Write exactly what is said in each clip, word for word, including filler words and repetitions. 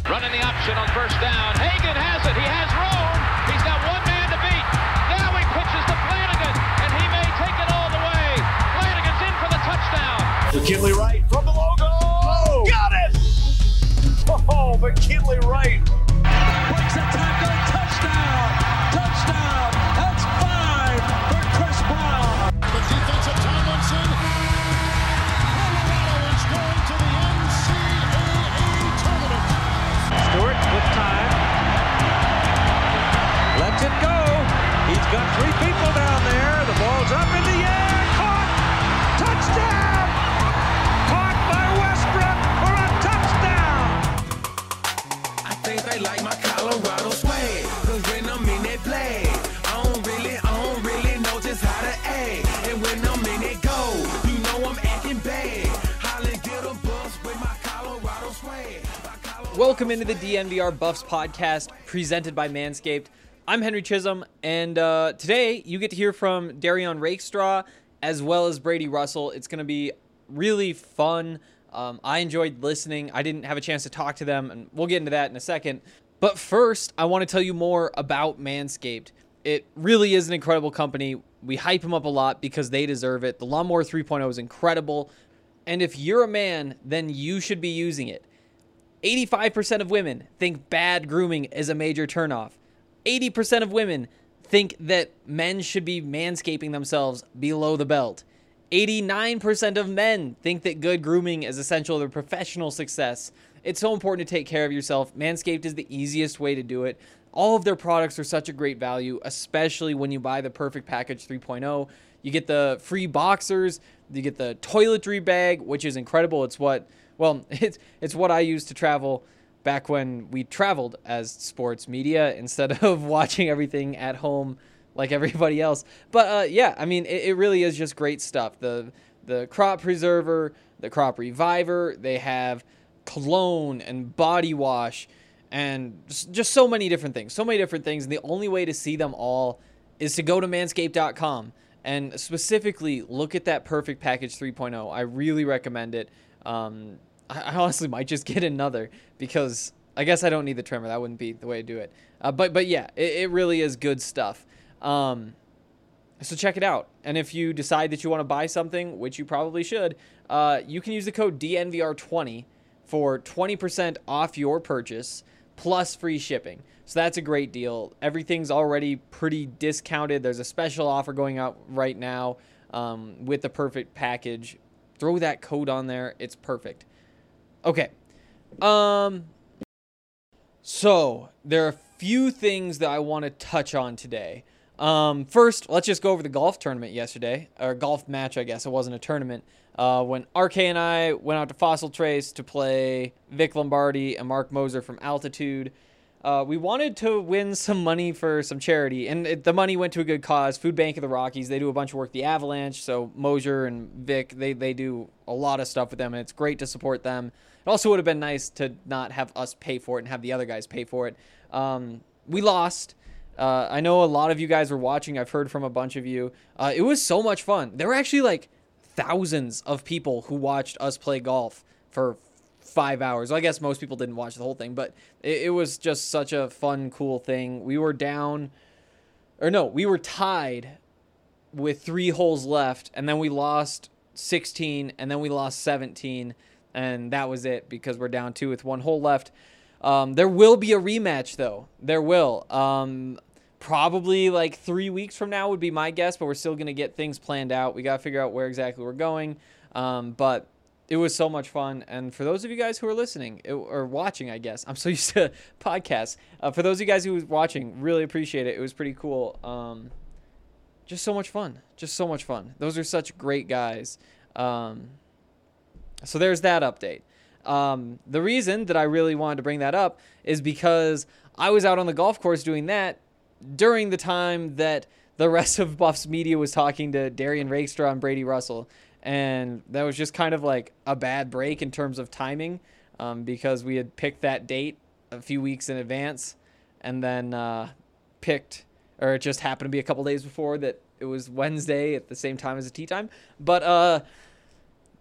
Running the option on first down. Hagan has it. He has room. He's got one man to beat. Now he pitches to Flanagan, and he may take it all the way. Flanagan's in for the touchdown. McKinley Wright from the logo. Oh, got it! Oh, McKinley Wright. Breaks a tackle. Touchdown. Touchdown. That's five for Chris Brown. The defensive Tomlinson. Colorado is going to the N C double A tournament. Stewart with time. Lets it go. He's got three people down there. The ball's up in the air. Caught. Touchdown. Caught by Westbrook for a touchdown. I think they like my Colorado swag. Cause when I'm in that play, I don't really, I don't really know just how to act. And when I'm in it go, you know I'm acting bad. Holland get a bus with my Colorado swag. Welcome into the D N V R Buffs podcast presented by Manscaped. I'm Henry Chisholm, and uh, today you get to hear from Darian Rakestraw as well as Brady Russell. It's going to be really fun. Um, I enjoyed listening. I didn't have a chance to talk to them, and we'll get into that in a second. But first, I want to tell you more about Manscaped. It really is an incredible company. We hype them up a lot because they deserve it. The Lawnmower three point oh is incredible, and if you're a man, then you should be using it. eighty-five percent of women think bad grooming is a major turnoff. eighty percent of women think that men should be manscaping themselves below the belt. eighty-nine percent of men think that good grooming is essential to their professional success. It's so important to take care of yourself. Manscaped is the easiest way to do it. All of their products are such a great value, especially when you buy the Perfect Package three point oh. You get the free boxers, you get the toiletry bag, which is incredible. It's what, well, it's it's what I used to travel back when we traveled as sports media instead of watching everything at home like everybody else. But uh, yeah, I mean, it, it really is just great stuff. The the crop preserver, the crop reviver, they have cologne and body wash and just, just so many different things, so many different things. And the only way to see them all is to go to manscaped dot com and specifically look at that Perfect Package three point oh. I really recommend it. Um, I honestly might just get another because I guess I don't need the trimmer. That wouldn't be the way to do it. Uh, but but yeah, it, it really is good stuff. Um, so check it out. And if you decide that you want to buy something, which you probably should, uh, you can use the code D N V R twenty for twenty percent off your purchase plus free shipping. So that's a great deal. Everything's already pretty discounted. There's a special offer going out right now um, with the Perfect Package. Throw that code on there. It's perfect. Okay, um, so there are a few things that I want to touch on today. Um, first, let's just go over the golf tournament yesterday, or golf match, I guess. It wasn't a tournament. Uh, when R K and I went out to Fossil Trace to play Vic Lombardi and Mark Moser from Altitude. Uh, we wanted to win some money for some charity, and it, the money went to a good cause, Food Bank of the Rockies. They do a bunch of work, the Avalanche, so Moser and Vic, they, they do a lot of stuff with them, and it's great to support them. It also would have been nice to not have us pay for it and have the other guys pay for it. Um, we lost. Uh, I know a lot of you guys were watching. I've heard from a bunch of you. Uh, it was so much fun. There were actually like thousands of people who watched us play golf for five hours. Well, I guess most people didn't watch the whole thing, but it, it was just such a fun, cool thing. We were down, or no, we were tied with three holes left, and then we lost sixteen, and then we lost seventeen, and that was it because we're down two with one hole left. Um, there will be a rematch, though. There will. Um, probably like three weeks from now would be my guess, but we're still going to get things planned out. We got to figure out where exactly we're going, um, but it was so much fun. And for those of you guys who are listening it, or watching, I guess, I'm so used to podcasts. Uh, for those of you guys who are watching, really appreciate it. It was pretty cool. Um, just so much fun. Just so much fun. Those are such great guys. Um, so there's that update. Um, the reason that I really wanted to bring that up is because I was out on the golf course doing that during the time that the rest of Buffs media was talking to Darian Rakestraw and Brady Russell. And that was just kind of like a bad break in terms of timing, um, because we had picked that date a few weeks in advance and then uh, picked, or it just happened to be a couple days before that it was Wednesday at the same time as the tee time. But uh,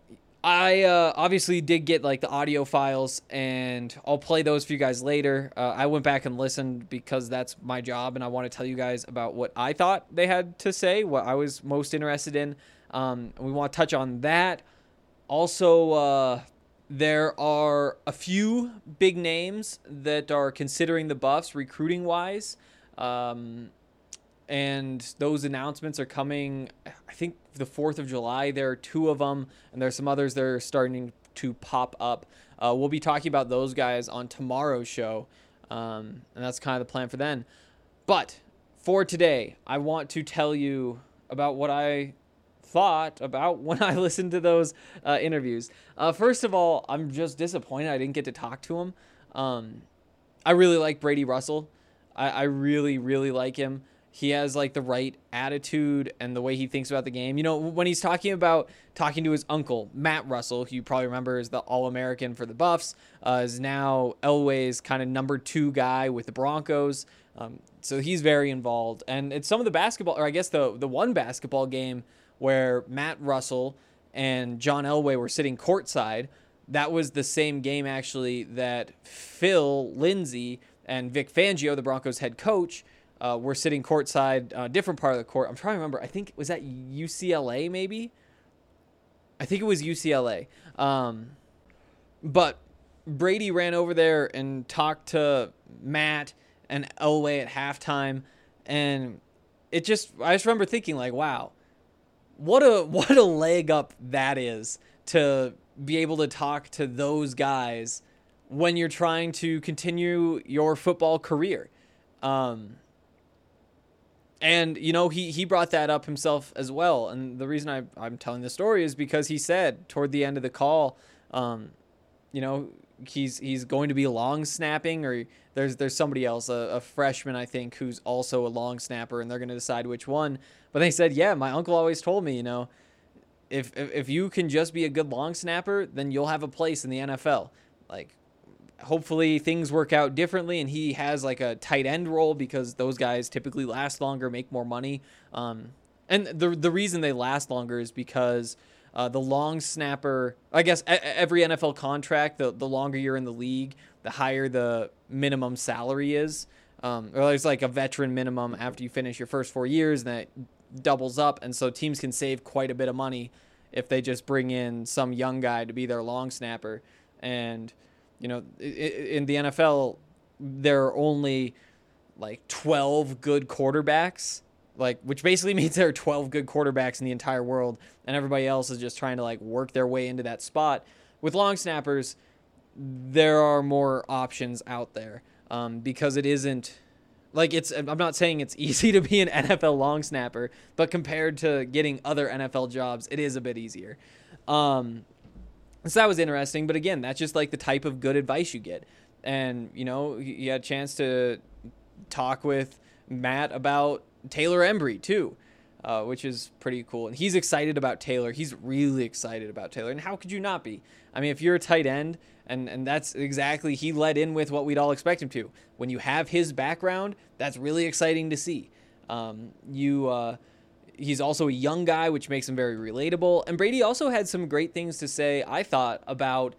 I uh, obviously did get like the audio files, and I'll play those for you guys later. Uh, I went back and listened because that's my job, and I want to tell you guys about what I thought they had to say, what I was most interested in. Um, we want to touch on that. Also, uh, there are a few big names that are considering the Buffs recruiting-wise, um, and those announcements are coming, I think, the fourth of July. There are two of them, and there's some others that are starting to pop up. Uh, we'll be talking about those guys on tomorrow's show, um, and that's kind of the plan for then. But for today, I want to tell you about what I thought about when I listened to those uh, interviews. Uh, first of all, I'm just disappointed I didn't get to talk to him. Um, I really like Brady Russell. I, I really, really like him. He has like the right attitude and the way he thinks about the game. You know, when he's talking about talking to his uncle, Matt Russell, who you probably remember is the All-American for the Buffs, uh, is now Elway's kind of number two guy with the Broncos. Um, so he's very involved. And it's some of the basketball, or I guess the, the one basketball game where Matt Russell and John Elway were sitting courtside. That was the same game actually that Phil Lindsay and Vic Fangio, the Broncos head coach, Uh, we're sitting courtside, uh, different part of the court. I'm trying to remember. I think, was that U C L A maybe? I think it was U C L A. Um, but Brady ran over there and talked to Matt and Elway at halftime. And it just, I just remember thinking like, wow, what a, what a leg up that is to be able to talk to those guys when you're trying to continue your football career. Um, And, you know, he, he brought that up himself as well. And the reason I, I'm telling this story is because he said toward the end of the call, um, you know, he's he's going to be long snapping, or there's there's somebody else, a, a freshman, I think, who's also a long snapper, and they're going to decide which one. But they said, yeah, my uncle always told me, you know, if, if if you can just be a good long snapper, then you'll have a place in the N F L. Like, hopefully things work out differently and he has like a tight end role, because those guys typically last longer, make more money. Um, and the the reason they last longer is because uh, the long snapper, I guess a- every N F L contract, the, the longer you're in the league, the higher the minimum salary is. Um, or there's like a veteran minimum after you finish your first four years, and that doubles up. And so teams can save quite a bit of money if they just bring in some young guy to be their long snapper. And you know, in the N F L, there are only like twelve good quarterbacks, like, which basically means there are twelve good quarterbacks in the entire world, and everybody else is just trying to like work their way into that spot. With long snappers, there are more options out there, um, because it isn't like it's, I'm not saying it's easy to be an N F L long snapper, but compared to getting other N F L jobs, it is a bit easier. Um, So that was interesting, but again, that's just like the type of good advice you get. And, you know, you had a chance to talk with Matt about Taylor Embry too, uh, which is pretty cool. And he's excited about Taylor. He's really excited about Taylor. And how could you not be? I mean, if you're a tight end, and, and that's exactly, he led in with what we'd all expect him to. When you have his background, that's really exciting to see. Um, you, uh, He's also a young guy, which makes him very relatable. And Brady also had some great things to say, I thought, about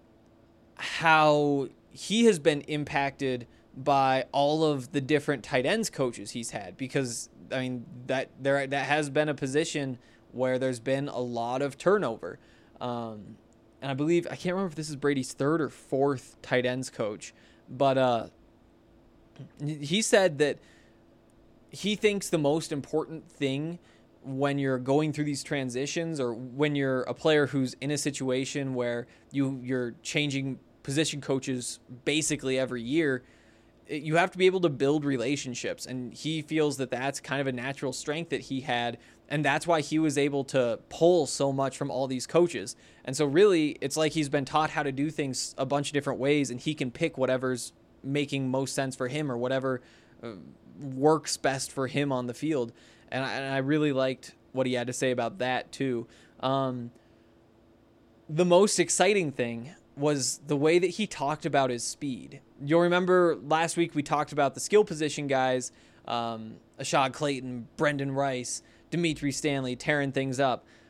how he has been impacted by all of the different tight ends coaches he's had. Because, I mean, that there that has been a position where there's been a lot of turnover. Um, and I believe, I can't remember if this is Brady's third or fourth tight ends coach. But uh, he said that he thinks the most important thing when you're going through these transitions, or when you're a player who's in a situation where you, you're changing position coaches basically every year, you have to be able to build relationships. And he feels that that's kind of a natural strength that he had. And that's why he was able to pull so much from all these coaches. And so really, it's like he's been taught how to do things a bunch of different ways, and he can pick whatever's making most sense for him, or whatever uh, works best for him on the field. And I, and I really liked what he had to say about that too. Um, the most exciting thing was the way that he talked about his speed. You'll remember last week we talked about the skill position guys, um, Ashad Clayton, Brendan Rice, Dimitri Stanley, tearing things up.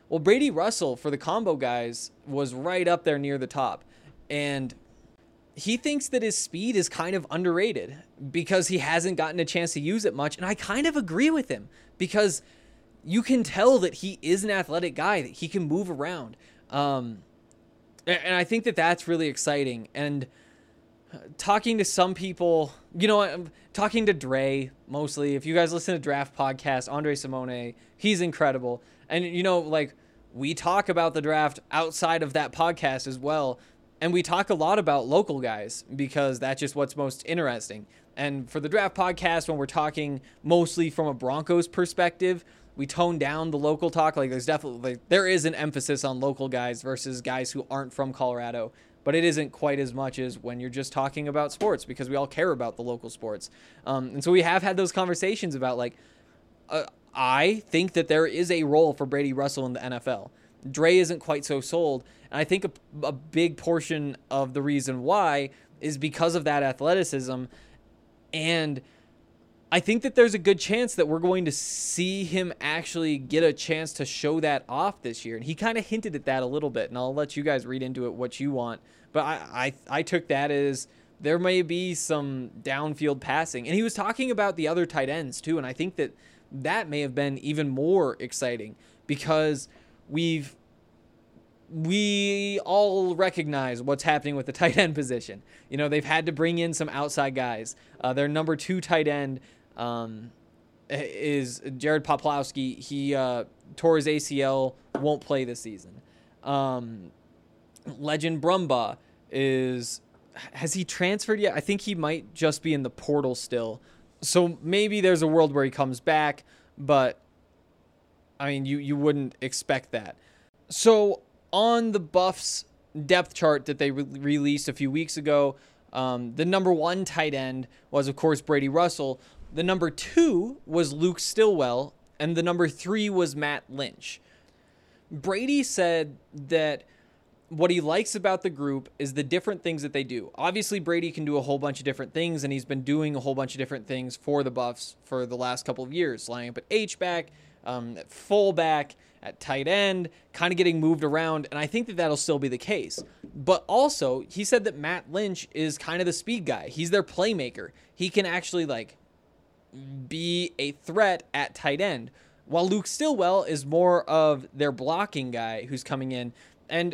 Well, Brady Russell for the combo guys was right up there near the top. And he thinks that his speed is kind of underrated because he hasn't gotten a chance to use it much. And I kind of agree with him because you can tell that he is an athletic guy, that he can move around. Um, and I think that that's really exciting. And talking to some people, you know, I'm talking to Dre mostly. If you guys listen to Draft Podcast, Andre Simone, he's incredible. And, you know, like we talk about the draft outside of that podcast as well. And we talk a lot about local guys because that's just what's most interesting. And for the Draft Podcast, when we're talking mostly from a Broncos perspective, we tone down the local talk. Like there's definitely, like, there is an emphasis on local guys versus guys who aren't from Colorado, but it isn't quite as much as when you're just talking about sports because we all care about the local sports. Um, and so we have had those conversations about like, uh, I think that there is a role for Brady Russell in the N F L. Dre isn't quite so sold. And I think a, a big portion of the reason why is because of that athleticism. And I think that there's a good chance that we're going to see him actually get a chance to show that off this year. And he kind of hinted at that a little bit, and I'll let you guys read into it what you want. But I, I, I took that as there may be some downfield passing. And he was talking about the other tight ends too. And I think that that may have been even more exciting because we've, we all recognize what's happening with the tight end position. You know, they've had to bring in some outside guys. Uh, their number two tight end um, is Jared Poplowski. He uh, tore his A C L, won't play this season. Um, Legend Brumbaugh is, has he transferred yet? I think he might just be in the portal still. So maybe there's a world where he comes back, but I mean, you, you wouldn't expect that. So on the Buffs depth chart that they re- released a few weeks ago, um, the number one tight end was, of course, Brady Russell. The number two was Luke Stillwell, and the number three was Matt Lynch. Brady said that what he likes about the group is the different things that they do. Obviously, Brady can do a whole bunch of different things, and he's been doing a whole bunch of different things for the Buffs for the last couple of years, lining up at H-back, um, at fullback, at tight end, kind of getting moved around, and I think that that'll still be the case. But also, he said that Matt Lynch is kind of the speed guy. He's their playmaker. He can actually, like, be a threat at tight end, while Luke Stillwell is more of their blocking guy who's coming in. And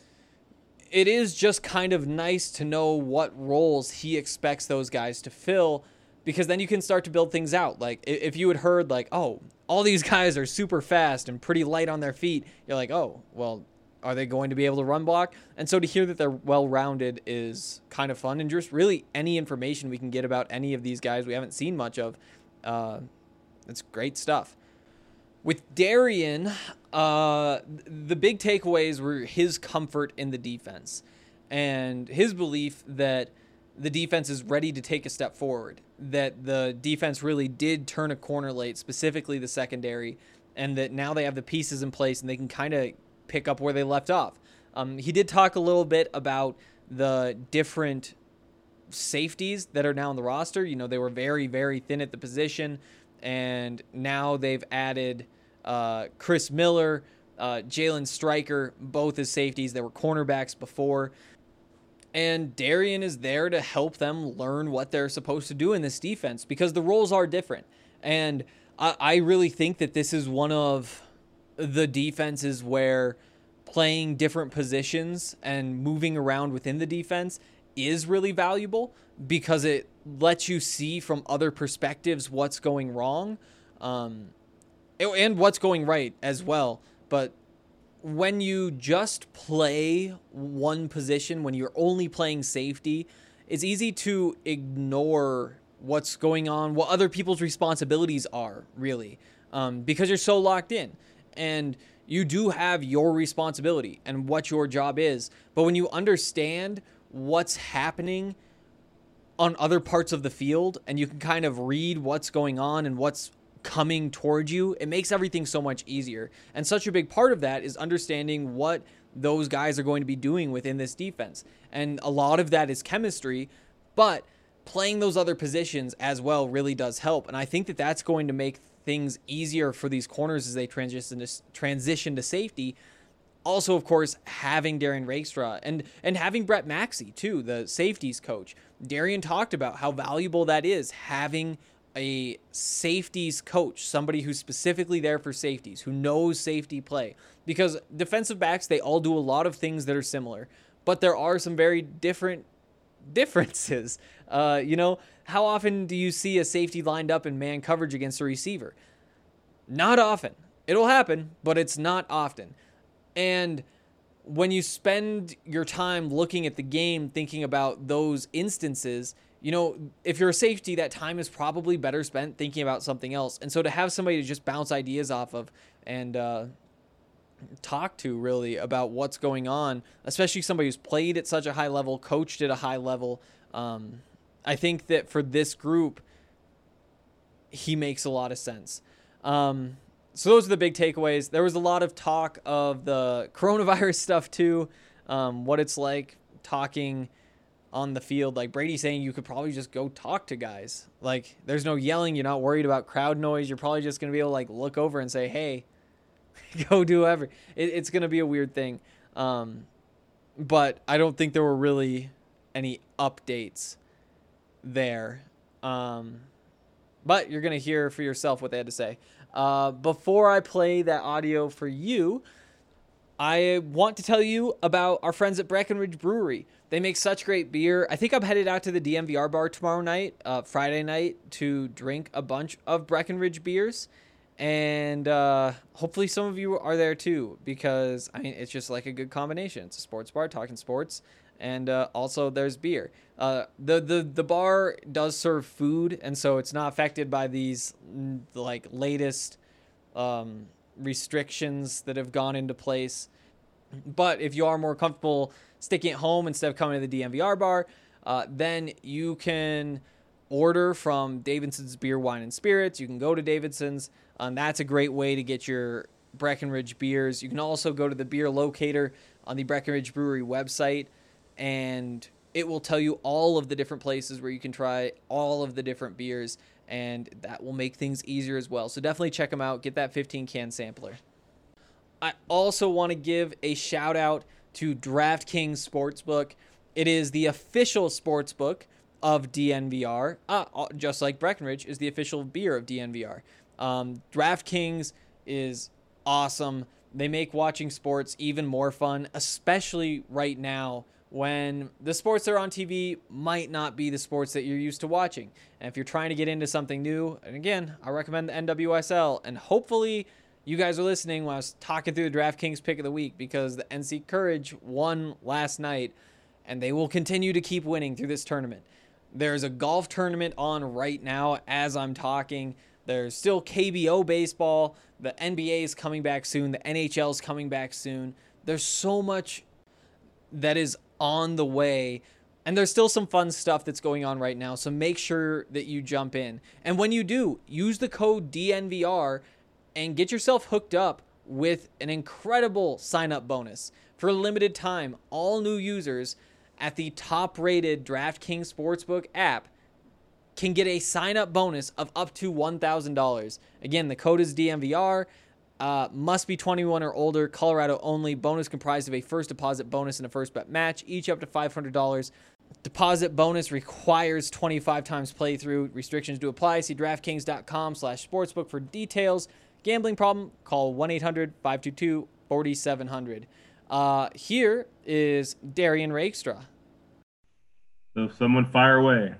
it is just kind of nice to know what roles he expects those guys to fill, because then you can start to build things out. Like, if you had heard, like, oh, all these guys are super fast and pretty light on their feet, you're like, oh, well, are they going to be able to run block? And so to hear that they're well-rounded is kind of fun. And just really any information we can get about any of these guys we haven't seen much of, uh, it's great stuff. With Darian, uh, the big takeaways were his comfort in the defense and his belief that the defense is ready to take a step forward, that the defense really did turn a corner late, specifically the secondary, and that now they have the pieces in place and they can kind of pick up where they left off. Um, he did talk a little bit about the different safeties that are now on the roster. You know, they were very, very thin at the position, and now they've added uh, Chris Miller, uh, Jalen Stryker, both as safeties. They were cornerbacks before. And Darian is there to help them learn what they're supposed to do in this defense because the roles are different. And I, I really think that this is one of the defenses where playing different positions and moving around within the defense is really valuable because it lets you see from other perspectives what's going wrong um, and what's going right as well. But when you just play one position, when you're only playing safety, it's easy to ignore what's going on, what other people's responsibilities are, really, um, because you're so locked in. And you do have your responsibility and what your job is. But when you understand what's happening on other parts of the field and you can kind of read what's going on and what's coming towards you, it makes everything so much easier. And such a big part of that is understanding what those guys are going to be doing within this defense. And a lot of that is chemistry, but playing those other positions as well really does help. And I think that that's going to make things easier for these corners as they transition to, transition to safety. Also, of course, having Darian Rakestraw and, and having Brett Maxey, too, the safeties coach. Darian talked about how valuable that is, having a safeties coach, somebody who's specifically there for safeties, who knows safety play. Because defensive backs, they all do a lot of things that are similar, but there are some very different differences. Uh, you know, how often do you see a safety lined up in man coverage against a receiver? Not often. It'll happen, but it's not often. And when you spend your time looking at the game, thinking about those instances, you know, if you're a safety, that time is probably better spent thinking about something else. And so to have somebody to just bounce ideas off of and uh, talk to really about what's going on, especially somebody who's played at such a high level, coached at a high level, um, I think that for this group, he makes a lot of sense. Um, so those are the big takeaways. There was a lot of talk of the coronavirus stuff too, um, what it's like talking on the field. Like Brady saying you could probably just go talk to guys. Like there's no yelling. You're not worried about crowd noise. You're probably just going to be able to like look over and say, hey, go do whatever. It, it's going to be a weird thing. Um, but I don't think there were really any updates there. Um, but you're going to hear for yourself what they had to say. Uh, before I play that audio for you, I want to tell you about our friends at Breckenridge Brewery. They make such great beer. I think I'm headed out to the D M V R bar tomorrow night, uh, Friday night, to drink a bunch of Breckenridge beers. And uh, hopefully some of you are there too, because I mean, it's just like a good combination. It's a sports bar talking sports, and uh, also there's beer. Uh, the, the, the bar does serve food, and so it's not affected by these like latest um, restrictions that have gone into place. But if you are more comfortable sticking at home instead of coming to the D M V R bar, uh, then you can order from Davidson's Beer, Wine, and Spirits. You can go to Davidson's. Um, that's a great way to get your Breckenridge beers. You can also go to the beer locator on the Breckenridge Brewery website, and it will tell you all of the different places where you can try all of the different beers, and that will make things easier as well. So definitely check them out. Get that fifteen can sampler. I also want to give a shout out to DraftKings Sportsbook. It is the official sportsbook of D N V R, uh, just like Breckenridge is the official beer of D N V R. Um, DraftKings is awesome. They make watching sports even more fun, especially right now when the sports that are on T V might not be the sports that you're used to watching. And if you're trying to get into something new, and again, I recommend the N W S L, and hopefully you guys are listening when I was talking through the DraftKings pick of the week, because the N C Courage won last night, and they will continue to keep winning through this tournament. There's a golf tournament on right now as I'm talking. There's still K B O baseball. The N B A is coming back soon. The N H L is coming back soon. There's so much that is on the way, and there's still some fun stuff that's going on right now. So make sure that you jump in. And when you do, use the code D N V R and get yourself hooked up with an incredible sign-up bonus. For a limited time, all new users at the top-rated DraftKings Sportsbook app can get a sign-up bonus of up to one thousand dollars. Again, the code is D M V R. Uh, must be twenty-one or older. Colorado only. Bonus comprised of a first deposit bonus and a first bet match, each up to five hundred dollars. Deposit bonus requires twenty-five times playthrough. Restrictions do apply. See DraftKings.com slash sportsbook for details. Gambling problem? Call one eight hundred five two two four seven zero zero. Uh, here is Darian Rakestraw. So someone fire away.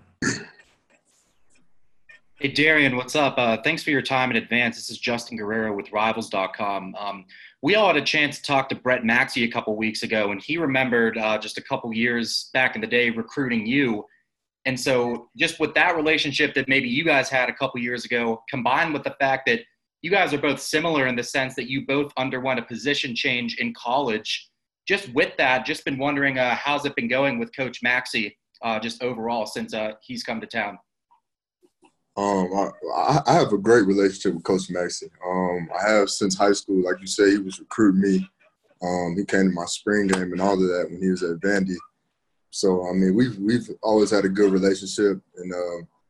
Hey, Darian, what's up? Uh, thanks for your time in advance. This is Justin Guerrero with Rivals dot com. Um, we all had a chance to talk to Brett Maxey a couple weeks ago, and he remembered uh, just a couple years back in the day recruiting you. And so just with that relationship that maybe you guys had a couple years ago, combined with the fact that you guys are both similar in the sense that you both underwent a position change in college, just with that, just been wondering uh, how's it been going with Coach Maxey uh, just overall since uh, he's come to town? Um, I, I have a great relationship with Coach Maxey. Um, I have since high school. Like you said, he was recruiting me. Um, he came to my spring game and all of that when he was at Vandy. So, I mean, we've, we've always had a good relationship. And, uh,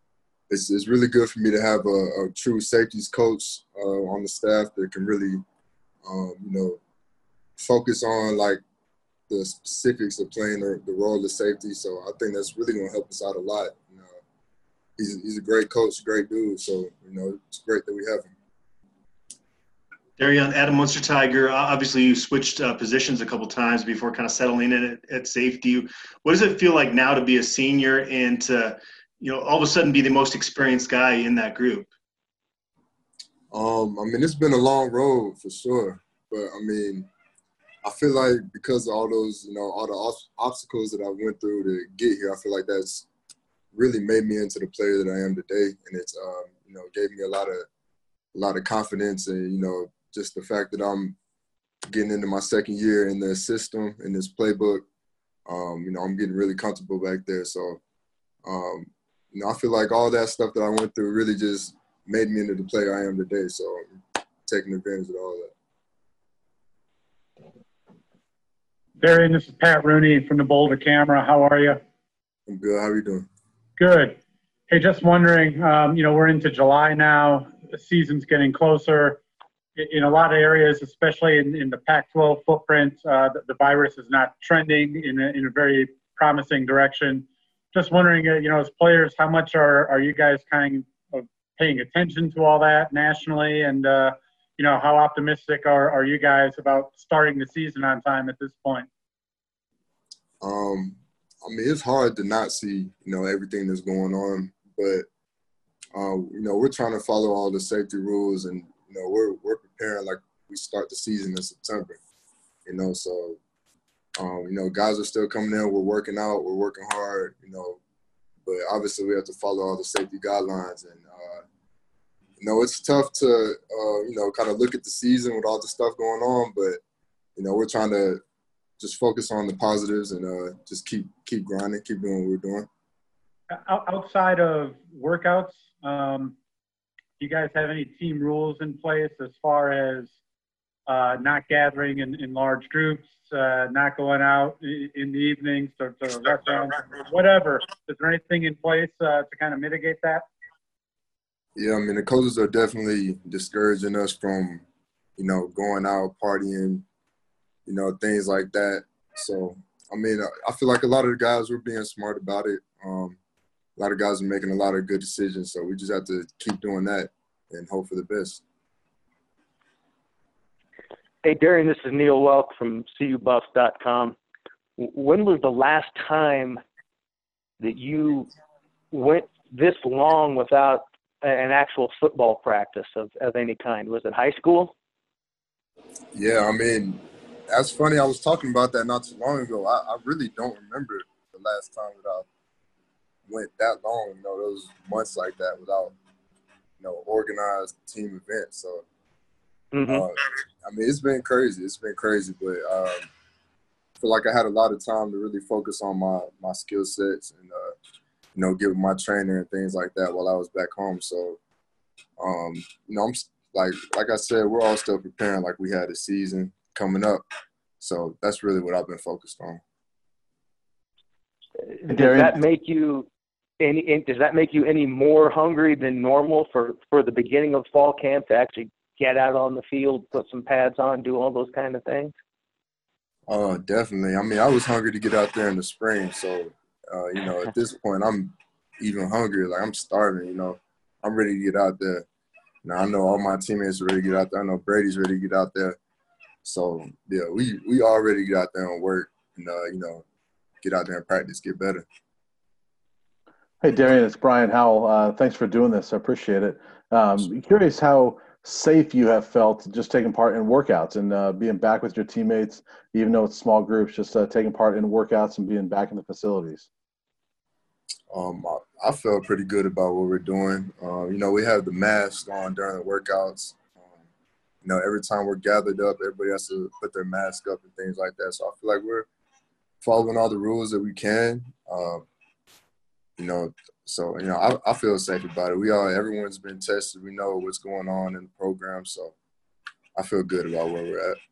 it's it's really good for me to have a, a true safeties coach uh, on the staff that can really, um, you know, focus on like the specifics of playing the, the role of safety. So I think that's really going to help us out a lot. You know, he's he's a great coach, great dude. So you know, it's great that we have him. Darian, Adam Munster Tiger, obviously you switched uh, positions a couple times before kind of settling in at, at safety. What does it feel like now to be a senior and to, you know, all of a sudden be the most experienced guy in that group? Um, I mean, it's been a long road for sure. But, I mean, I feel like because of all those, you know, all the ob- obstacles that I went through to get here, I feel like that's really made me into the player that I am today. And it's, um, you know, gave me a lot of, a lot of confidence and, you know, just the fact that I'm getting into my second year in the system, in this playbook, um, you know, I'm getting really comfortable back there. So, um, you know, I feel like all that stuff that I went through really just made me into the player I am today. So I'm taking advantage of all that. Darian, this is Pat Rooney from the Boulder Camera. How are you? I'm good. How are you doing? Good. Hey, just wondering, um, you know, we're into July now. The season's getting closer. In a lot of areas, especially in, in the Pac twelve footprint, uh, the, the virus is not trending in a, in a very promising direction. Just wondering, uh, you know, as players, how much are, are you guys kind of paying attention to all that nationally? And, uh, you know, how optimistic are, are you guys about starting the season on time at this point? Um, I mean, it's hard to not see, you know, everything that's going on. But, um, you know, we're trying to follow all the safety rules and, you know, we're we're preparing like we start the season in September, you know. So, um, you know, guys are still coming in. We're working out. We're working hard, you know. But obviously, we have to follow all the safety guidelines. And, uh, you know, it's tough to, uh, you know, kind of look at the season with all the stuff going on. But, you know, we're trying to just focus on the positives and uh, just keep keep grinding, keep doing what we're doing. Outside of workouts, um, do you guys have any team rules in place as far as uh, not gathering in, in large groups, uh, not going out in the evenings to, to restaurants, whatever? Is there anything in place uh, to kind of mitigate that? Yeah, I mean, the coaches are definitely discouraging us from, you know, going out, partying, you know, things like that. So, I mean, I feel like a lot of the guys were being smart about it. Um, a lot of guys are making a lot of good decisions, so we just have to keep doing that and hope for the best. Hey, Darian, this is Neil Welk from C U Buffs dot com. When was the last time that you went this long without an actual football practice of, of any kind? Was it high school? Yeah, I mean, that's funny. I was talking about that not too long ago. I, I really don't remember the last time that I went that long, you know, those months like that without, you know, organized team events. So, mm-hmm. uh, I mean, it's been crazy. It's been crazy, but um, I feel like I had a lot of time to really focus on my, my skill sets and, uh, you know, give my trainer and things like that while I was back home. So, um, you know, I'm like, like I said, we're all still preparing like we had a season coming up. So that's really what I've been focused on. Does that make you any? Does that make you any more hungry than normal for, for the beginning of fall camp to actually get out on the field, put some pads on, do all those kind of things? Oh, uh, definitely. I mean, I was hungry to get out there in the spring. So, uh, you know, at this point, I'm even hungrier. Like, I'm starving, you know. I'm ready to get out there. Now, I know all my teammates are ready to get out there. I know Brady's ready to get out there. So, yeah, we, we all ready to get out there and work and, uh, you know, get out there and practice, get better. Hey, Darian, it's Brian Howell. Uh, thanks for doing this. I appreciate it. Um, curious how safe you have felt just taking part in workouts and uh, being back with your teammates, even though it's small groups, just uh, taking part in workouts and being back in the facilities. Um, I, I felt pretty good about what we're doing. Uh, you know, we have the mask on during the workouts. Um, you know, every time we're gathered up, everybody has to put their mask up and things like that. So I feel like we're following all the rules that we can. Um, you know, so, you know, I, I feel safe about it. We all, everyone's been tested. We know what's going on in the program. So I feel good about where we're at.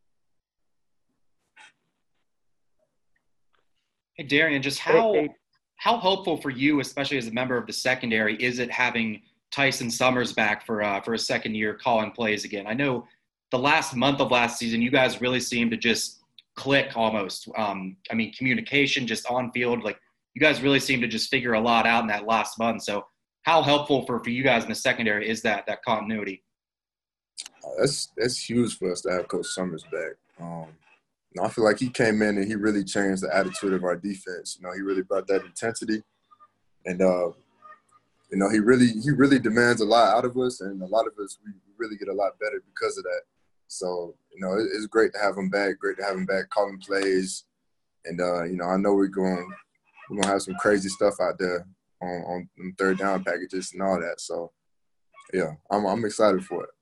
Hey, Darian, just how how helpful for you, especially as a member of the secondary, is it having Tyson Summers back for uh, for a second year calling plays again? I know the last month of last season, you guys really seemed to just click almost. Um, I mean, communication just on field, like you guys really seemed to just figure a lot out in that last month. So how helpful for, for you guys in the secondary is that, that continuity? Uh, that's, that's huge for us to have Coach Summers back. Um, you know, I feel like he came in and he really changed the attitude of our defense. You know, he really brought that intensity, and uh, you know, he really he really demands a lot out of us, and a lot of us we really get a lot better because of that. So you know, it, it's great to have him back. Great to have him back calling plays, and uh, you know, I know we're going we're gonna have some crazy stuff out there on, on, on third down packages and all that. So yeah, I'm I'm excited for it.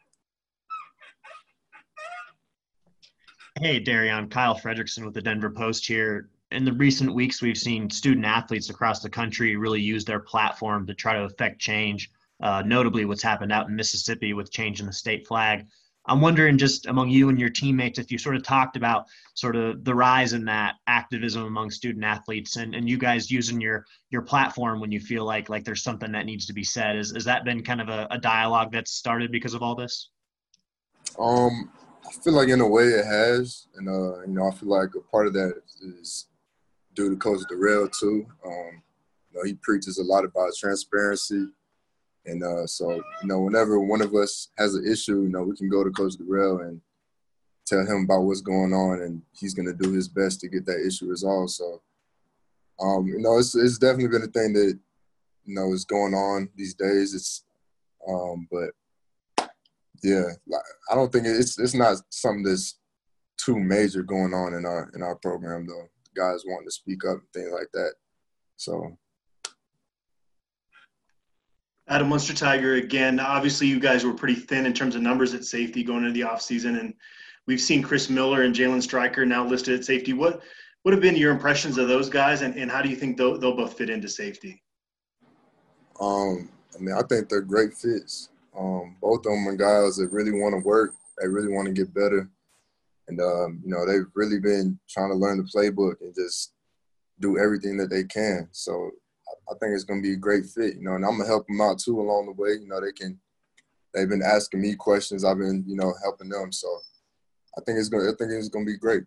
Hey, Darion, Kyle Fredrickson with the Denver Post here. In the recent weeks, we've seen student athletes across the country really use their platform to try to affect change, uh, notably what's happened out in Mississippi with changing the state flag. I'm wondering, just among you and your teammates, if you sort of talked about sort of the rise in that activism among student athletes and, and you guys using your your platform when you feel like like there's something that needs to be said. Is, has that been kind of a, a dialogue that's started because of all this? Um, I feel like in a way it has, and uh, you know, I feel like a part of that is due to Coach Darrell too. Um, you know, he preaches a lot about transparency, and uh, so you know, whenever one of us has an issue, you know, we can go to Coach Darrell and tell him about what's going on, and he's going to do his best to get that issue resolved. So, um, you know, it's it's definitely been a thing that you know is going on these days. It's, um, but. Yeah, I don't think it's it's not something that's too major going on in our in our program though. Guys wanting to speak up and things like that. So, Adam Munster Tiger again. Obviously, you guys were pretty thin in terms of numbers at safety going into the offseason, and we've seen Chris Miller and Jalen Stryker now listed at safety. What what have been your impressions of those guys, and, and how do you think they'll, they'll both fit into safety? Um, I mean, I think they're great fits. Um, both of them are guys that really want to work. They really want to get better. And, um, you know, they've really been trying to learn the playbook and just do everything that they can. So I think it's going to be a great fit, you know, and I'm going to help them out too along the way. You know, they can – they've been asking me questions. I've been, you know, helping them. So I think it's going I think it's going to be great.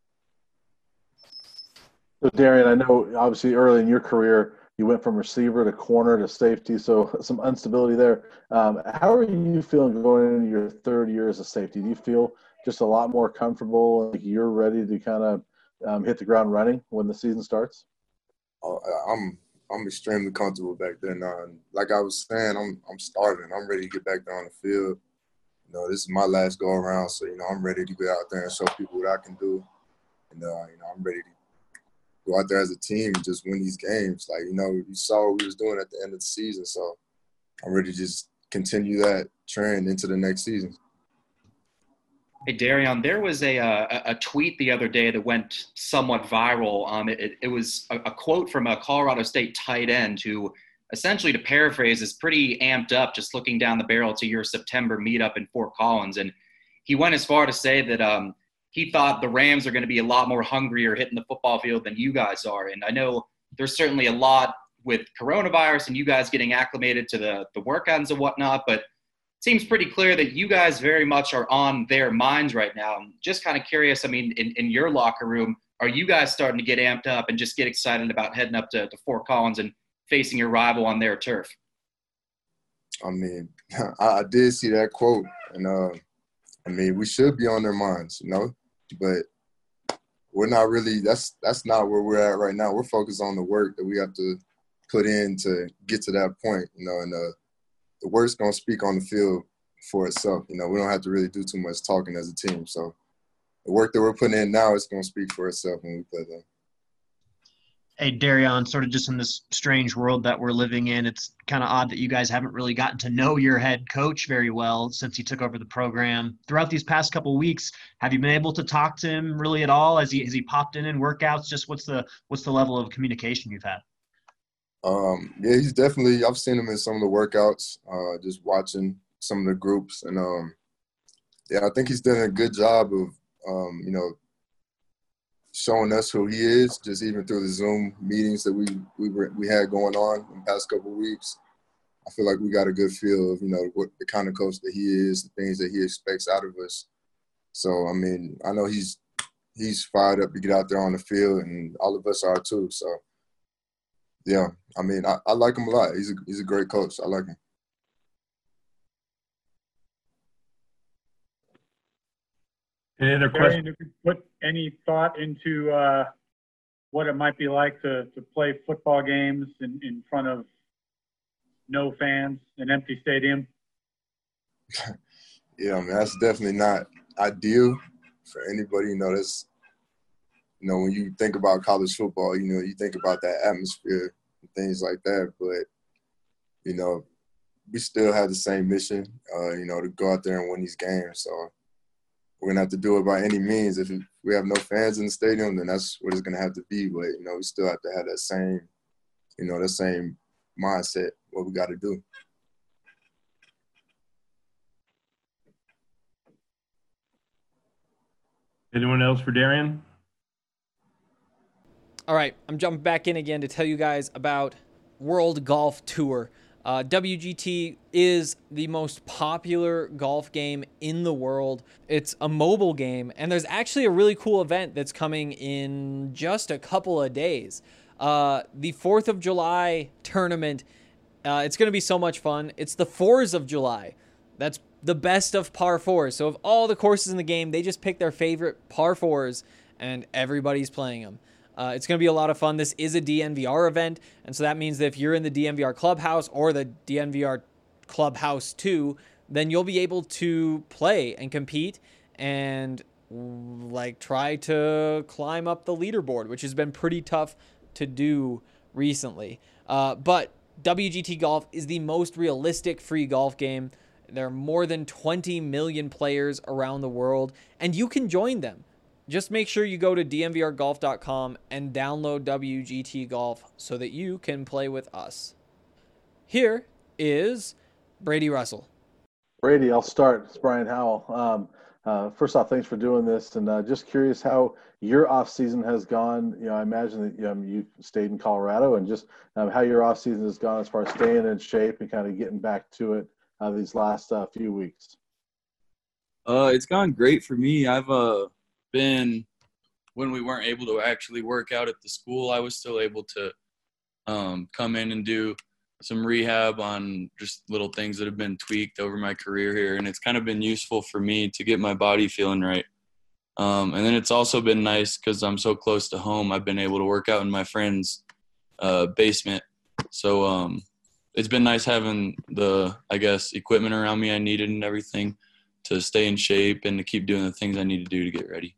So, Darion, I know obviously early in your career – you went from receiver to corner to safety, so some instability there. Um, how are you feeling going into your third year as a safety? Do you feel just a lot more comfortable, like you're ready to kind of um, hit the ground running when the season starts? Oh, I'm I'm extremely comfortable back there now. And like I was saying, I'm I'm starving. I'm ready to get back there on the field. You know, this is my last go around, so you know I'm ready to get out there and show people what I can do. And uh, you know, I'm ready to go out there as a team and just win these games. Like, you know, you saw what we was doing at the end of the season. So I'm ready to just continue that trend into the next season. Hey, Darion, there was a, a, a tweet the other day that went somewhat viral. Um, it, it was a, a quote from a Colorado State tight end who, essentially to paraphrase, is pretty amped up just looking down the barrel to your September meetup in Fort Collins. And he went as far to say that um, – he thought the Rams are going to be a lot more hungrier hitting the football field than you guys are. And I know there's certainly a lot with coronavirus and you guys getting acclimated to the, the workouts and whatnot, but it seems pretty clear that you guys very much are on their minds right now. I'm just kind of curious, I mean, in, in your locker room, are you guys starting to get amped up and just get excited about heading up to, to Fort Collins and facing your rival on their turf? I mean, I, I did see that quote, and uh, I mean, we should be on their minds, you know? But we're not really – that's that's not where we're at right now. We're focused on the work that we have to put in to get to that point, you know, and uh, the work's going to speak on the field for itself. You know, we don't have to really do too much talking as a team. So the work that we're putting in now is going to speak for itself when we play them. Hey, Darion, sort of just in this strange world that we're living in, it's kind of odd that you guys haven't really gotten to know your head coach very well since he took over the program. Throughout these past couple of weeks, have you been able to talk to him really at all? Has he has he popped in in workouts? Just what's the what's the level of communication you've had? Um, yeah, he's definitely – I've seen him in some of the workouts, uh, just watching some of the groups. And, um, yeah, I think he's done a good job of, um, you know, showing us who he is, just even through the Zoom meetings that we we were, we had going on in the past couple of weeks. I feel like we got a good feel of, you know, what the kind of coach that he is, the things that he expects out of us. So, I mean, I know he's he's fired up to get out there on the field, and all of us are too. So, yeah, I mean, I, I like him a lot. He's a, he's a great coach. I like him. Any other questions? If you put any thought into uh, what it might be like to, to play football games in, in front of no fans, an empty stadium? Yeah, I mean, that's definitely not ideal for anybody. You know, that's, you know, when you think about college football, you know, you think about that atmosphere and things like that. But, you know, we still have the same mission, uh, you know, to go out there and win these games. So we're going to have to do it by any means. If we have no fans in the stadium, then that's what it's going to have to be. But, you know, we still have to have that same, you know, that same mindset, what we got to do. Anyone else for Darian? All right, I'm jumping back in again to tell you guys about World Golf Tour. Uh, W G T is the most popular golf game in the world. It's a mobile game, and there's actually a really cool event that's coming in just a couple of days. Uh, the fourth of July tournament, uh, it's going to be so much fun. It's the fours of July. That's the best of par fours. So of all the courses in the game, they just pick their favorite par fours, and everybody's playing them. Uh, it's going to be a lot of fun. This is a D N V R event, and so that means that if you're in the D N V R Clubhouse or the D N V R Clubhouse two, then you'll be able to play and compete and like try to climb up the leaderboard, which has been pretty tough to do recently. Uh, but W G T Golf is the most realistic free golf game. There are more than twenty million players around the world, and you can join them. Just make sure you go to D N V R golf dot com and download W G T Golf so that you can play with us. Here is Brady Russell. Brady, I'll start. It's Brian Howell. Um, uh, first off, thanks for doing this, and uh, just curious how your off season has gone. You know, I imagine that um, you stayed in Colorado, and just um, how your off season has gone as far as staying in shape and kind of getting back to it uh, these last uh, few weeks. Uh, it's gone great for me. I've uh. been when we weren't able to actually work out at the school, I was still able to um, come in and do some rehab on just little things that have been tweaked over my career here. And it's kind of been useful for me to get my body feeling right. Um, and then it's also been nice because I'm so close to home. I've been able to work out in my friend's uh, basement. So um, it's been nice having the, I guess, equipment around me I needed and everything to stay in shape and to keep doing the things I need to do to get ready.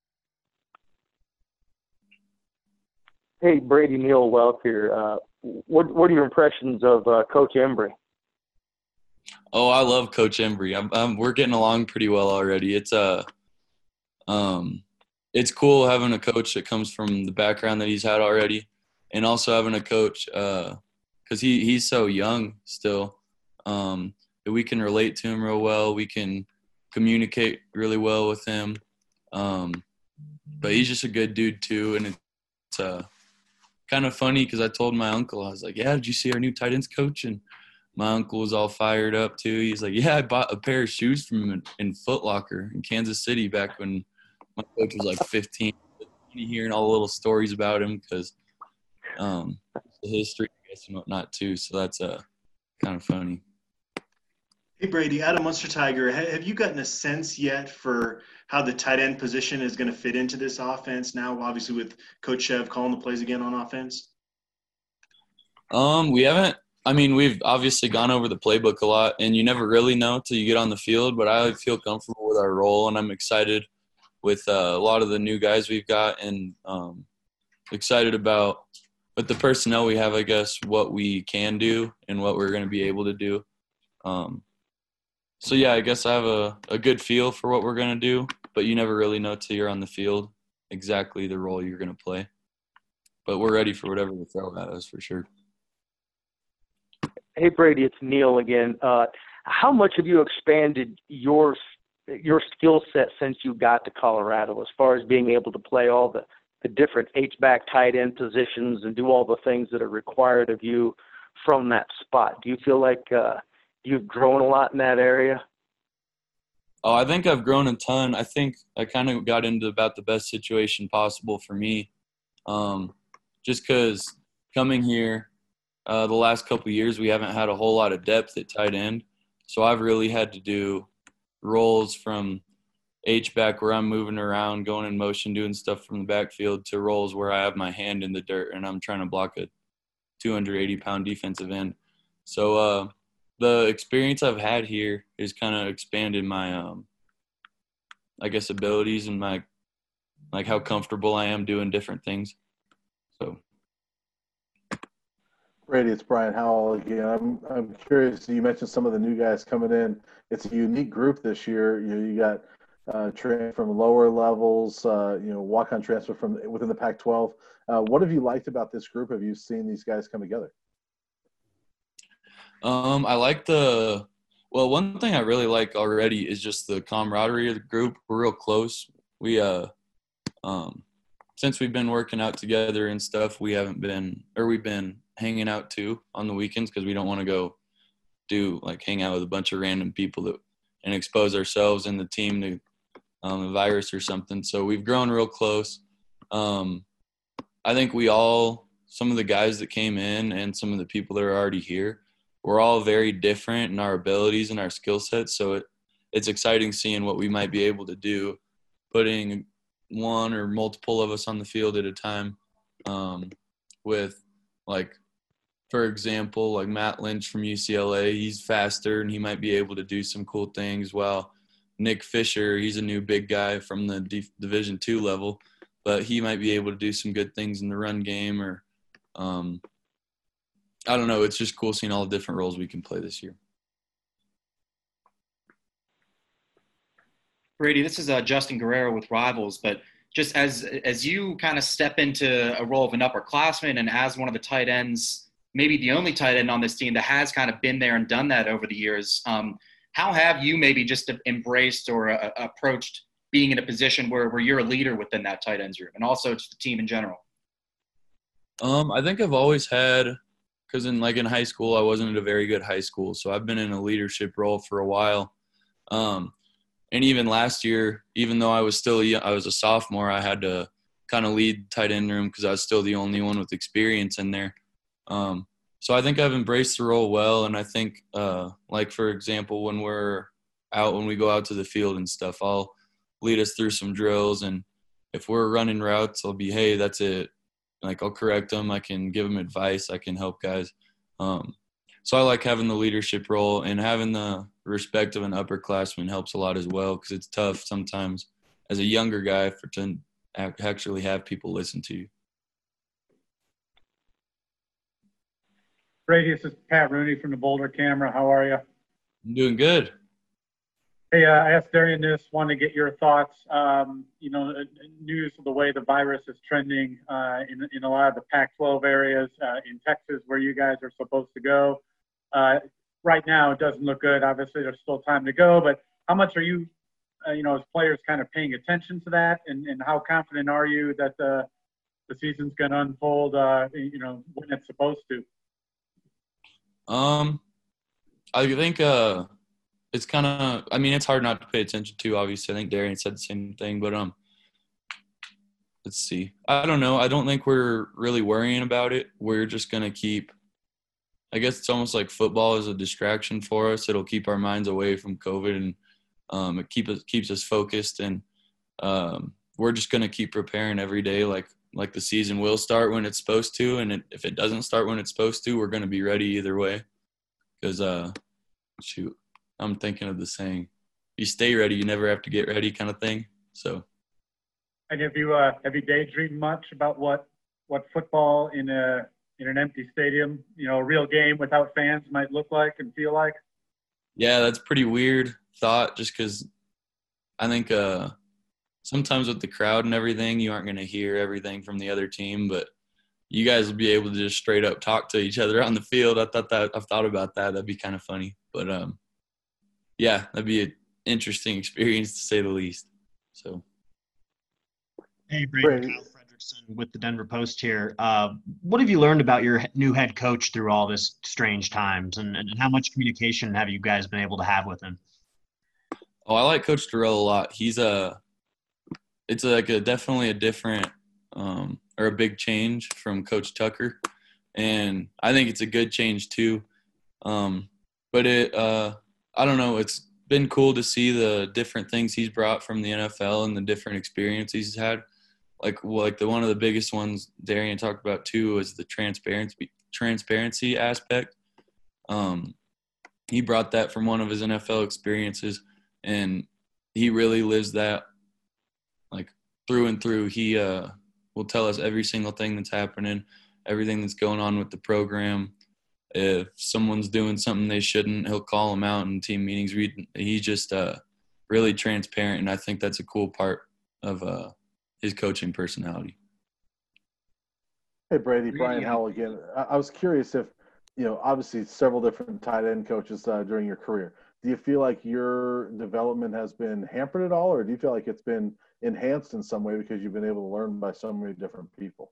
Hey, Brady, Neil Welk here. Uh, what what are your impressions of uh, Coach Embry? Oh, I love Coach Embry. I'm, I'm, we're getting along pretty well already. It's uh, um, it's cool having a coach that comes from the background that he's had already, and also having a coach because uh, he he's so young still. Um, that we can relate to him real well. We can communicate really well with him. Um, but he's just a good dude too, and it's uh. kind of funny because I told my uncle, I was like, yeah, did you see our new tight ends coach? And my uncle was all fired up too. He's like, yeah, I bought a pair of shoes from him in, in Foot Locker in Kansas City back when my coach was like fifteen. Hearing all the little stories about him because um, the history, I guess, and whatnot too. So that's uh, kind of funny. Hey, Brady, Adam Munster Tiger, have you gotten a sense yet for how the tight end position is going to fit into this offense now, obviously with Coach Chev calling the plays again on offense? Um, we haven't – I mean, we've obviously gone over the playbook a lot, and you never really know till you get on the field, but I feel comfortable with our role, and I'm excited with uh, a lot of the new guys we've got and um, excited about with the personnel we have, I guess, what we can do and what we're going to be able to do. Um So, yeah, I guess I have a, a good feel for what we're going to do, but you never really know till you're on the field exactly the role you're going to play. But we're ready for whatever they throw at us for sure. Hey, Brady, it's Neil again. Uh, how much have you expanded your your skill set since you got to Colorado as far as being able to play all the the different H-back tight end positions and do all the things that are required of you from that spot. Do you feel like uh, you've grown a lot in that area? Oh, I think I've grown a ton. I think I kind of got into about the best situation possible for me. Um, just because coming here uh, the last couple of years, we haven't had a whole lot of depth at tight end. So I've really had to do roles from H-back where I'm moving around, going in motion, doing stuff from the backfield, to roles where I have my hand in the dirt and I'm trying to block a two hundred eighty pound defensive end. So uh, the experience I've had here has kind of expanded my, um, I guess, abilities and my, like how comfortable I am doing different things. So. Brady, it's Brian Howell again. I'm I'm curious. You mentioned some of the new guys coming in. It's a unique group this year. You know, you got uh, train from lower levels. Uh, you know, walk-on transfer from within the Pac twelve. Uh, what have you liked about this group? Have you seen these guys come together? Um, I like the. Well, one thing I really like already is just the camaraderie of the group. We're real close. We uh, um, since we've been working out together and stuff, we haven't been, or we've been. hanging out too on the weekends because we don't want to go do like hang out with a bunch of random people that and expose ourselves and the team to um, a virus or something. So we've grown real close. Um, I think we all, some of the guys that came in and some of the people that are already here, we're all very different in our abilities and our skill sets. So it, it's exciting seeing what we might be able to do, putting one or multiple of us on the field at a time um, with like, for example, like Matt Lynch from U C L A, he's faster and he might be able to do some cool things. While Nick Fisher, he's a new big guy from the D- Division two level, but he might be able to do some good things in the run game or um, I don't know. It's just cool seeing all the different roles we can play this year. Brady, this is uh, Justin Guerrero with Rivals, but just as as you kind of step into a role of an upperclassman and as one of the tight ends, maybe the only tight end on this team that has kind of been there and done that over the years, um, how have you maybe just embraced or uh, approached being in a position where, where you're a leader within that tight ends room and also just the team in general? Um, I think I've always had, because in like in high school, I wasn't at a very good high school, so I've been in a leadership role for a while. Um, and even last year, even though I was still I was a sophomore, I had to kind of lead tight end room because I was still the only one with experience in there. Um, so I think I've embraced the role well, and I think, uh, like for example, when we're out, when we go out to the field and stuff, I'll lead us through some drills, and if we're running routes, I'll be, hey, that's it. Like I'll correct them, I can give them advice, I can help guys. Um, so I like having the leadership role, and having the respect of an upperclassman helps a lot as well because it's tough sometimes as a younger guy for to actually have people listen to you. Brady, this is Pat Rooney from the Boulder Camera. How are you? I'm doing good. Hey, uh, I asked Darian this, wanted to get your thoughts. Um, you know, news of the way the virus is trending uh, in, in a lot of the Pac twelve areas uh, in Texas where you guys are supposed to go. Uh, right now, it doesn't look good. Obviously, there's still time to go, but how much are you, uh, you know, as players kind of paying attention to that? And, and how confident are you that the, the season's going to unfold, uh, you know, when it's supposed to? Um, I think uh, it's kind of – I mean, it's hard not to pay attention to, obviously. I think Darian said the same thing. But um, let's see. I don't know. I don't think we're really worrying about it. We're just going to keep – I guess it's almost like football is a distraction for us. It'll keep our minds away from COVID, and um, it keep us, keeps us focused. And um, we're just going to keep preparing every day like – like the season will start when it's supposed to, and it, if it doesn't start when it's supposed to, we're going to be ready either way. Because, uh, shoot, I'm thinking of the saying, you stay ready, you never have to get ready kind of thing. So. And have you uh, have you daydreamed much about what what football in a in an empty stadium, you know, a real game without fans might look like and feel like? Yeah, that's pretty weird thought. Just because I think. Uh, Sometimes with the crowd and everything, you aren't going to hear everything from the other team, but you guys will be able to just straight up talk to each other on the field. I thought that I've thought about that. That'd be kind of funny, but um, yeah, that'd be an interesting experience to say the least. So, hey, Brady, Kyle Fredrickson with the Denver Post here. Uh, what have you learned about your new head coach through all this strange times, and, and how much communication have you guys been able to have with him? Oh, I like Coach Terrell a lot. He's a, it's like a definitely a different um, or a big change from Coach Tucker, and I think it's a good change too. Um, but it, uh, I don't know, it's been cool to see the different things he's brought from the N F L and the different experiences he's had. Like, like the one of the biggest ones Darian talked about too was the transparency transparency aspect. Um, he brought that from one of his N F L experiences, and he really lives that like through and through. He uh, will tell us every single thing that's happening, everything that's going on with the program. If someone's doing something they shouldn't, he'll call them out in team meetings. He's just uh, really transparent, and I think that's a cool part of uh, his coaching personality. Hey, Brady, Brian Howell again. I, I was curious if, you know, obviously several different tight end coaches uh, during your career. Do you feel like your development has been hampered at all, or do you feel like it's been enhanced in some way because you've been able to learn by so many different people?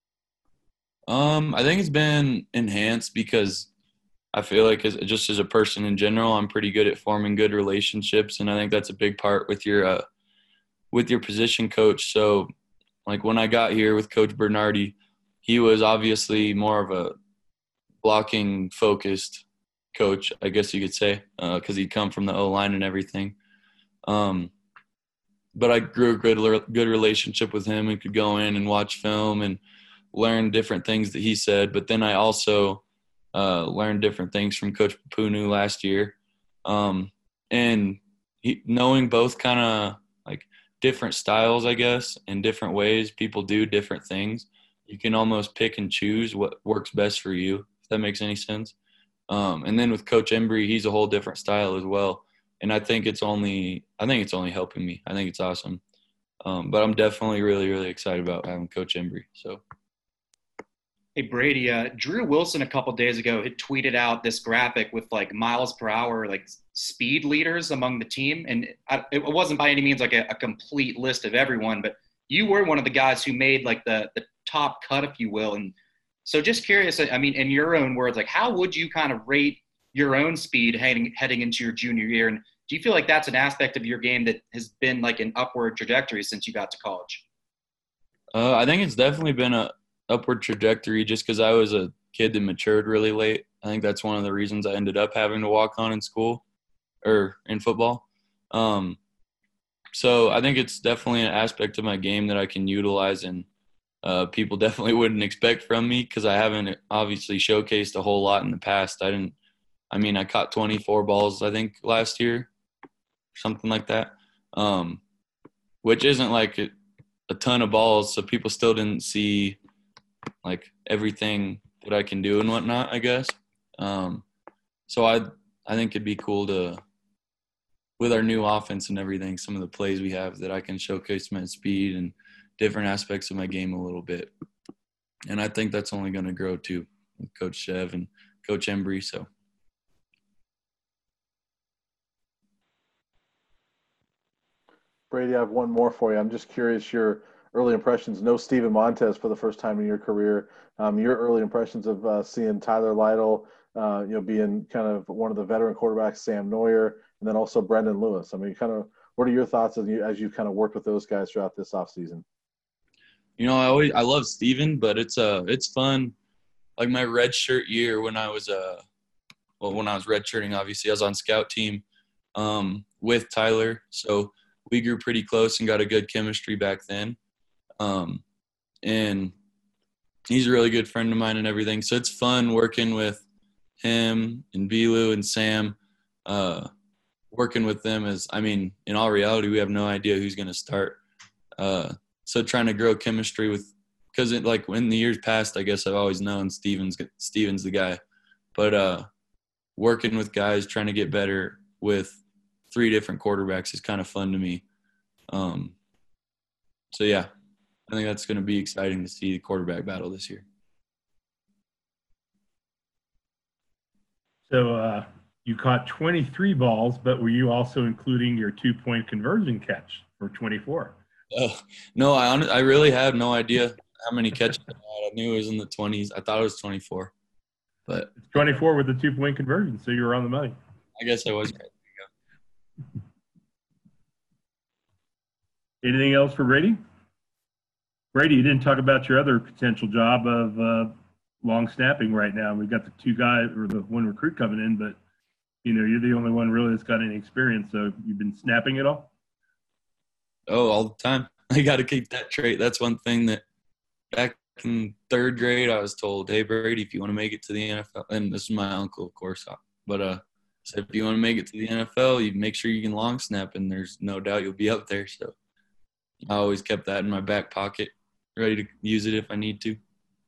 Um, I think it's been enhanced because I feel like as, just as a person in general, I'm pretty good at forming good relationships, and I think that's a big part with your uh, with your position coach. So, like when I got here with Coach Bernardi, he was obviously more of a blocking focused coach, I guess you could say, because uh, he'd come from the O-line and everything. Um, but I grew a good good relationship with him and could go in and watch film and learn different things that he said. But then I also uh, learned different things from Coach Punu last year. Um, and he, knowing both kind of like different styles, I guess, and different ways people do different things, you can almost pick and choose what works best for you, if that makes any sense. Um, and then with Coach Embry, he's a whole different style as well. And I think it's only I think it's only helping me. I think it's awesome. Um, but I'm definitely really, really excited about having Coach Embry. So. Hey, Brady, uh, Drew Wilson a couple days ago had tweeted out this graphic with like miles per hour, like speed leaders among the team. And I, it wasn't by any means like a, a complete list of everyone, but you were one of the guys who made like the, the top cut, if you will. And so just curious, I mean, in your own words, like how would you kind of rate your own speed heading, heading into your junior year? And do you feel like that's an aspect of your game that has been like an upward trajectory since you got to college? Uh, I think it's definitely been a upward trajectory just because I was a kid that matured really late. I think that's one of the reasons I ended up having to walk on in school or in football. Um, so I think it's definitely an aspect of my game that I can utilize and uh, people definitely wouldn't expect from me because I haven't obviously showcased a whole lot in the past. I didn't – I mean, I caught twenty-four balls, I think, last year, something like that, um, which isn't like a, a ton of balls, so people still didn't see – like everything that I can do and whatnot, I guess. Um, so I I think it'd be cool to, with our new offense and everything, some of the plays we have that I can showcase my speed and different aspects of my game a little bit. And I think that's only going to grow too with Coach Chev and Coach Embry. So. Brady, I have one more for you. I'm just curious your early impressions. No Steven Montez for the first time in your career. Um, your early impressions of uh, seeing Tyler Lytle, uh, you know, being kind of one of the veteran quarterbacks, Sam Neuer, and then also Brendan Lewis. I mean, kind of, what are your thoughts as you as you kind of worked with those guys throughout this offseason? You know, I always I love Steven, but it's uh it's fun. Like my red shirt year when I was uh well when I was redshirting, obviously I was on scout team um, with Tyler, so we grew pretty close and got a good chemistry back then. Um, and he's a really good friend of mine and everything. So it's fun working with him and Bilu and Sam, uh, working with them as, I mean, in all reality, we have no idea who's going to start. Uh, so trying to grow chemistry with, cause it like in the years past, I guess I've always known Steven's, Steven's the guy, but, uh, working with guys, trying to get better with three different quarterbacks is kind of fun to me. Um, so yeah. I think that's going to be exciting to see the quarterback battle this year. So uh, you caught twenty-three balls, but were you also including your two-point conversion catch for twenty-four? Uh, no, I hon- I really had no idea how many catches I had. I knew it was in the twenties. I thought it was twenty-four. But It's twenty-four with the two-point conversion, so you were on the money. I guess I was right. Anything else for Brady? Brady, you didn't talk about your other potential job of uh, long snapping right now. We've got the two guys or the one recruit coming in, but you know you're the only one really that's got any experience. So you've been snapping it all? Oh, all the time. I got to keep that trait. That's one thing that back in third grade I was told, hey, Brady, if you want to make it to the N F L, and this is my uncle, of course, but uh, said if you want to make it to the N F L, you make sure you can long snap, and there's no doubt you'll be up there. So I always kept that in my back pocket, ready to use it if I need to.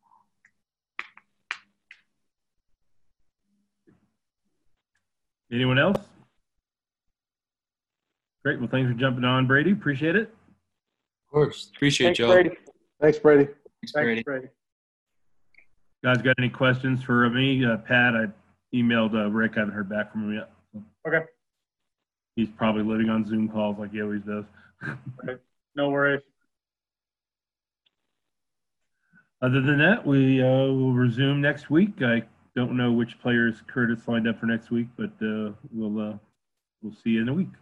Anyone else? Great. Well, thanks for jumping on, Brady. Appreciate it. Of course. Appreciate Thanks, y'all. Brady. Thanks, Brady. Thanks, Brady. Thanks, Brady. Guys, got any questions for me? Uh, Pat, I emailed uh, Rick. I haven't heard back from him yet. Okay. He's probably living on Zoom calls like he always does. Okay. No worries. Other than that, we uh, will resume next week. I don't know which players Curtis lined up for next week, but uh, we'll uh, we'll see you in a week.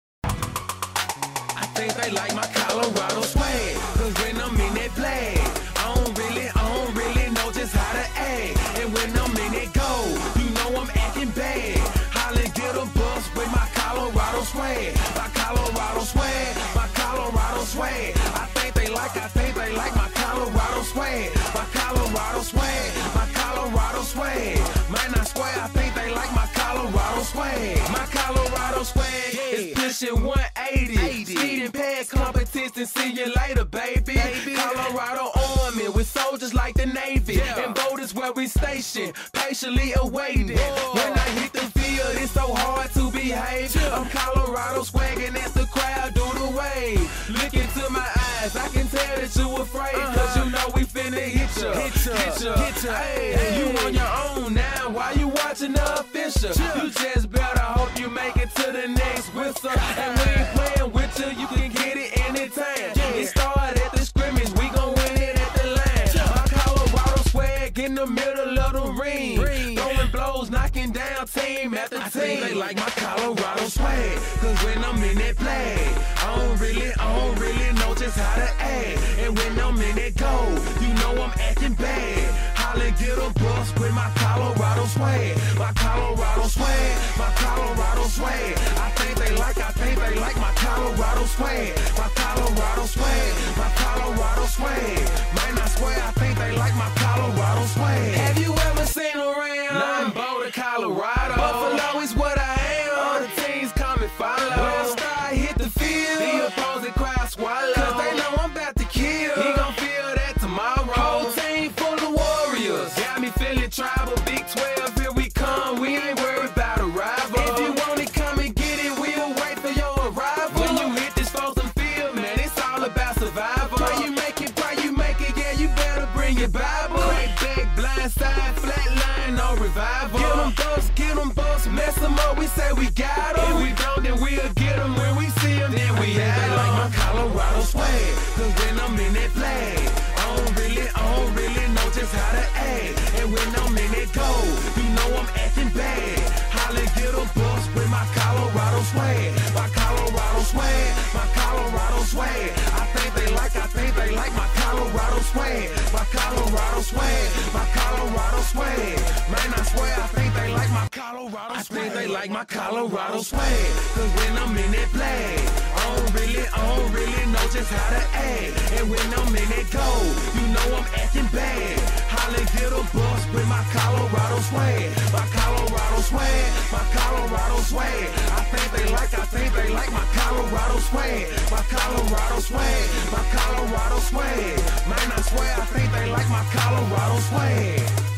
I think they like my Colorado swag, cause when I'm in that flag, I don't really, I don't really know just how to act. And when I'm in that goal, you know I'm acting bad. Holly get a bus with my Colorado swag, my Colorado swag, my Colorado swag. I think they like, I think they like my Colorado swag, my Colorado swag, my Colorado swag. Man, I swear, I think they like my Colorado swag, my Colorado swag is pushing one eighty. Speeding past competition, see you later, baby. baby. Colorado Army with soldiers like the Navy. Yeah. And voters where we stationed, patiently awaiting. Whoa. When I hit the field, it's so hard to behave. Yeah. I'm Colorado swagging as the crowd do the wave. Look into my eyes, I can tell that you afraid. Uh-huh. Cause you know we finna hit ya. Hit ya, hit ya, hit ya. Hey, hey. You on your own now, why you watching the official? Yeah. You just better hope you make it to the next whistle. And we ain't playing with you, you can get it anytime. Yeah. It started at the scrimmage, we gon' win it at the line. Yeah. My Colorado swag in the middle of the ring. ring. Throwing blows, knocking down team after I team. They like my Colorado swag, cause when I'm in that flag, I don't really, I don't really know just how to act. And when I'm in that goal, you know I'm acting bad. Holly get a bus with my Colorado swag, my Colorado swag, my Colorado swag. I think they like, I think they like my Colorado swag, my Colorado swag, my Colorado swag. Man, I swear, I think they like my Colorado swag. Have you ever seen around? I'm Boulder, Colorado. Buffalo is what I am. All the teams come and follow. When I start hit the field, the opposing crowd swallow. Cause they know I'm about to kill. He gon' feel that tomorrow. Whole team full of warriors. Got me feeling tribal. Big twelve, here we come. We ain't worried about a rival. If you want it, come and get it. We'll wait for your arrival. When you hit this frozen field, man, it's all about survival. Pray you make it, pray you make it. Yeah, you better bring your Bible. Crack back, blind side, flat line, no revival. Get them buffs, get them buffs, mess them up. We say we got them. If we don't, then we'll get them. When we see them, then we have them. Like my Colorado swag, cause when I'm in that flag, I don't really, I don't really know just how to act. And when I'm in that goal, you know I'm acting bad. Holly get a bus with my Colorado swag, my Colorado swag, my Colorado swag. I think they like, I think they like my Colorado swag, my Colorado swag, my Colorado swag. Man, I swear, I think they like my Colorado swag. I think they like my Colorado swag, cause when I'm in that flag, I don't really, I don't really know just how to act. And when I'm in that goal, you know I'm acting bad. Holly get a bus with my Colorado swag, my Colorado swag, my Colorado swag. I think they like, I think they like my Colorado swag, my Colorado swag, my Colorado swag. Man, I swear, I think they like my Colorado swag.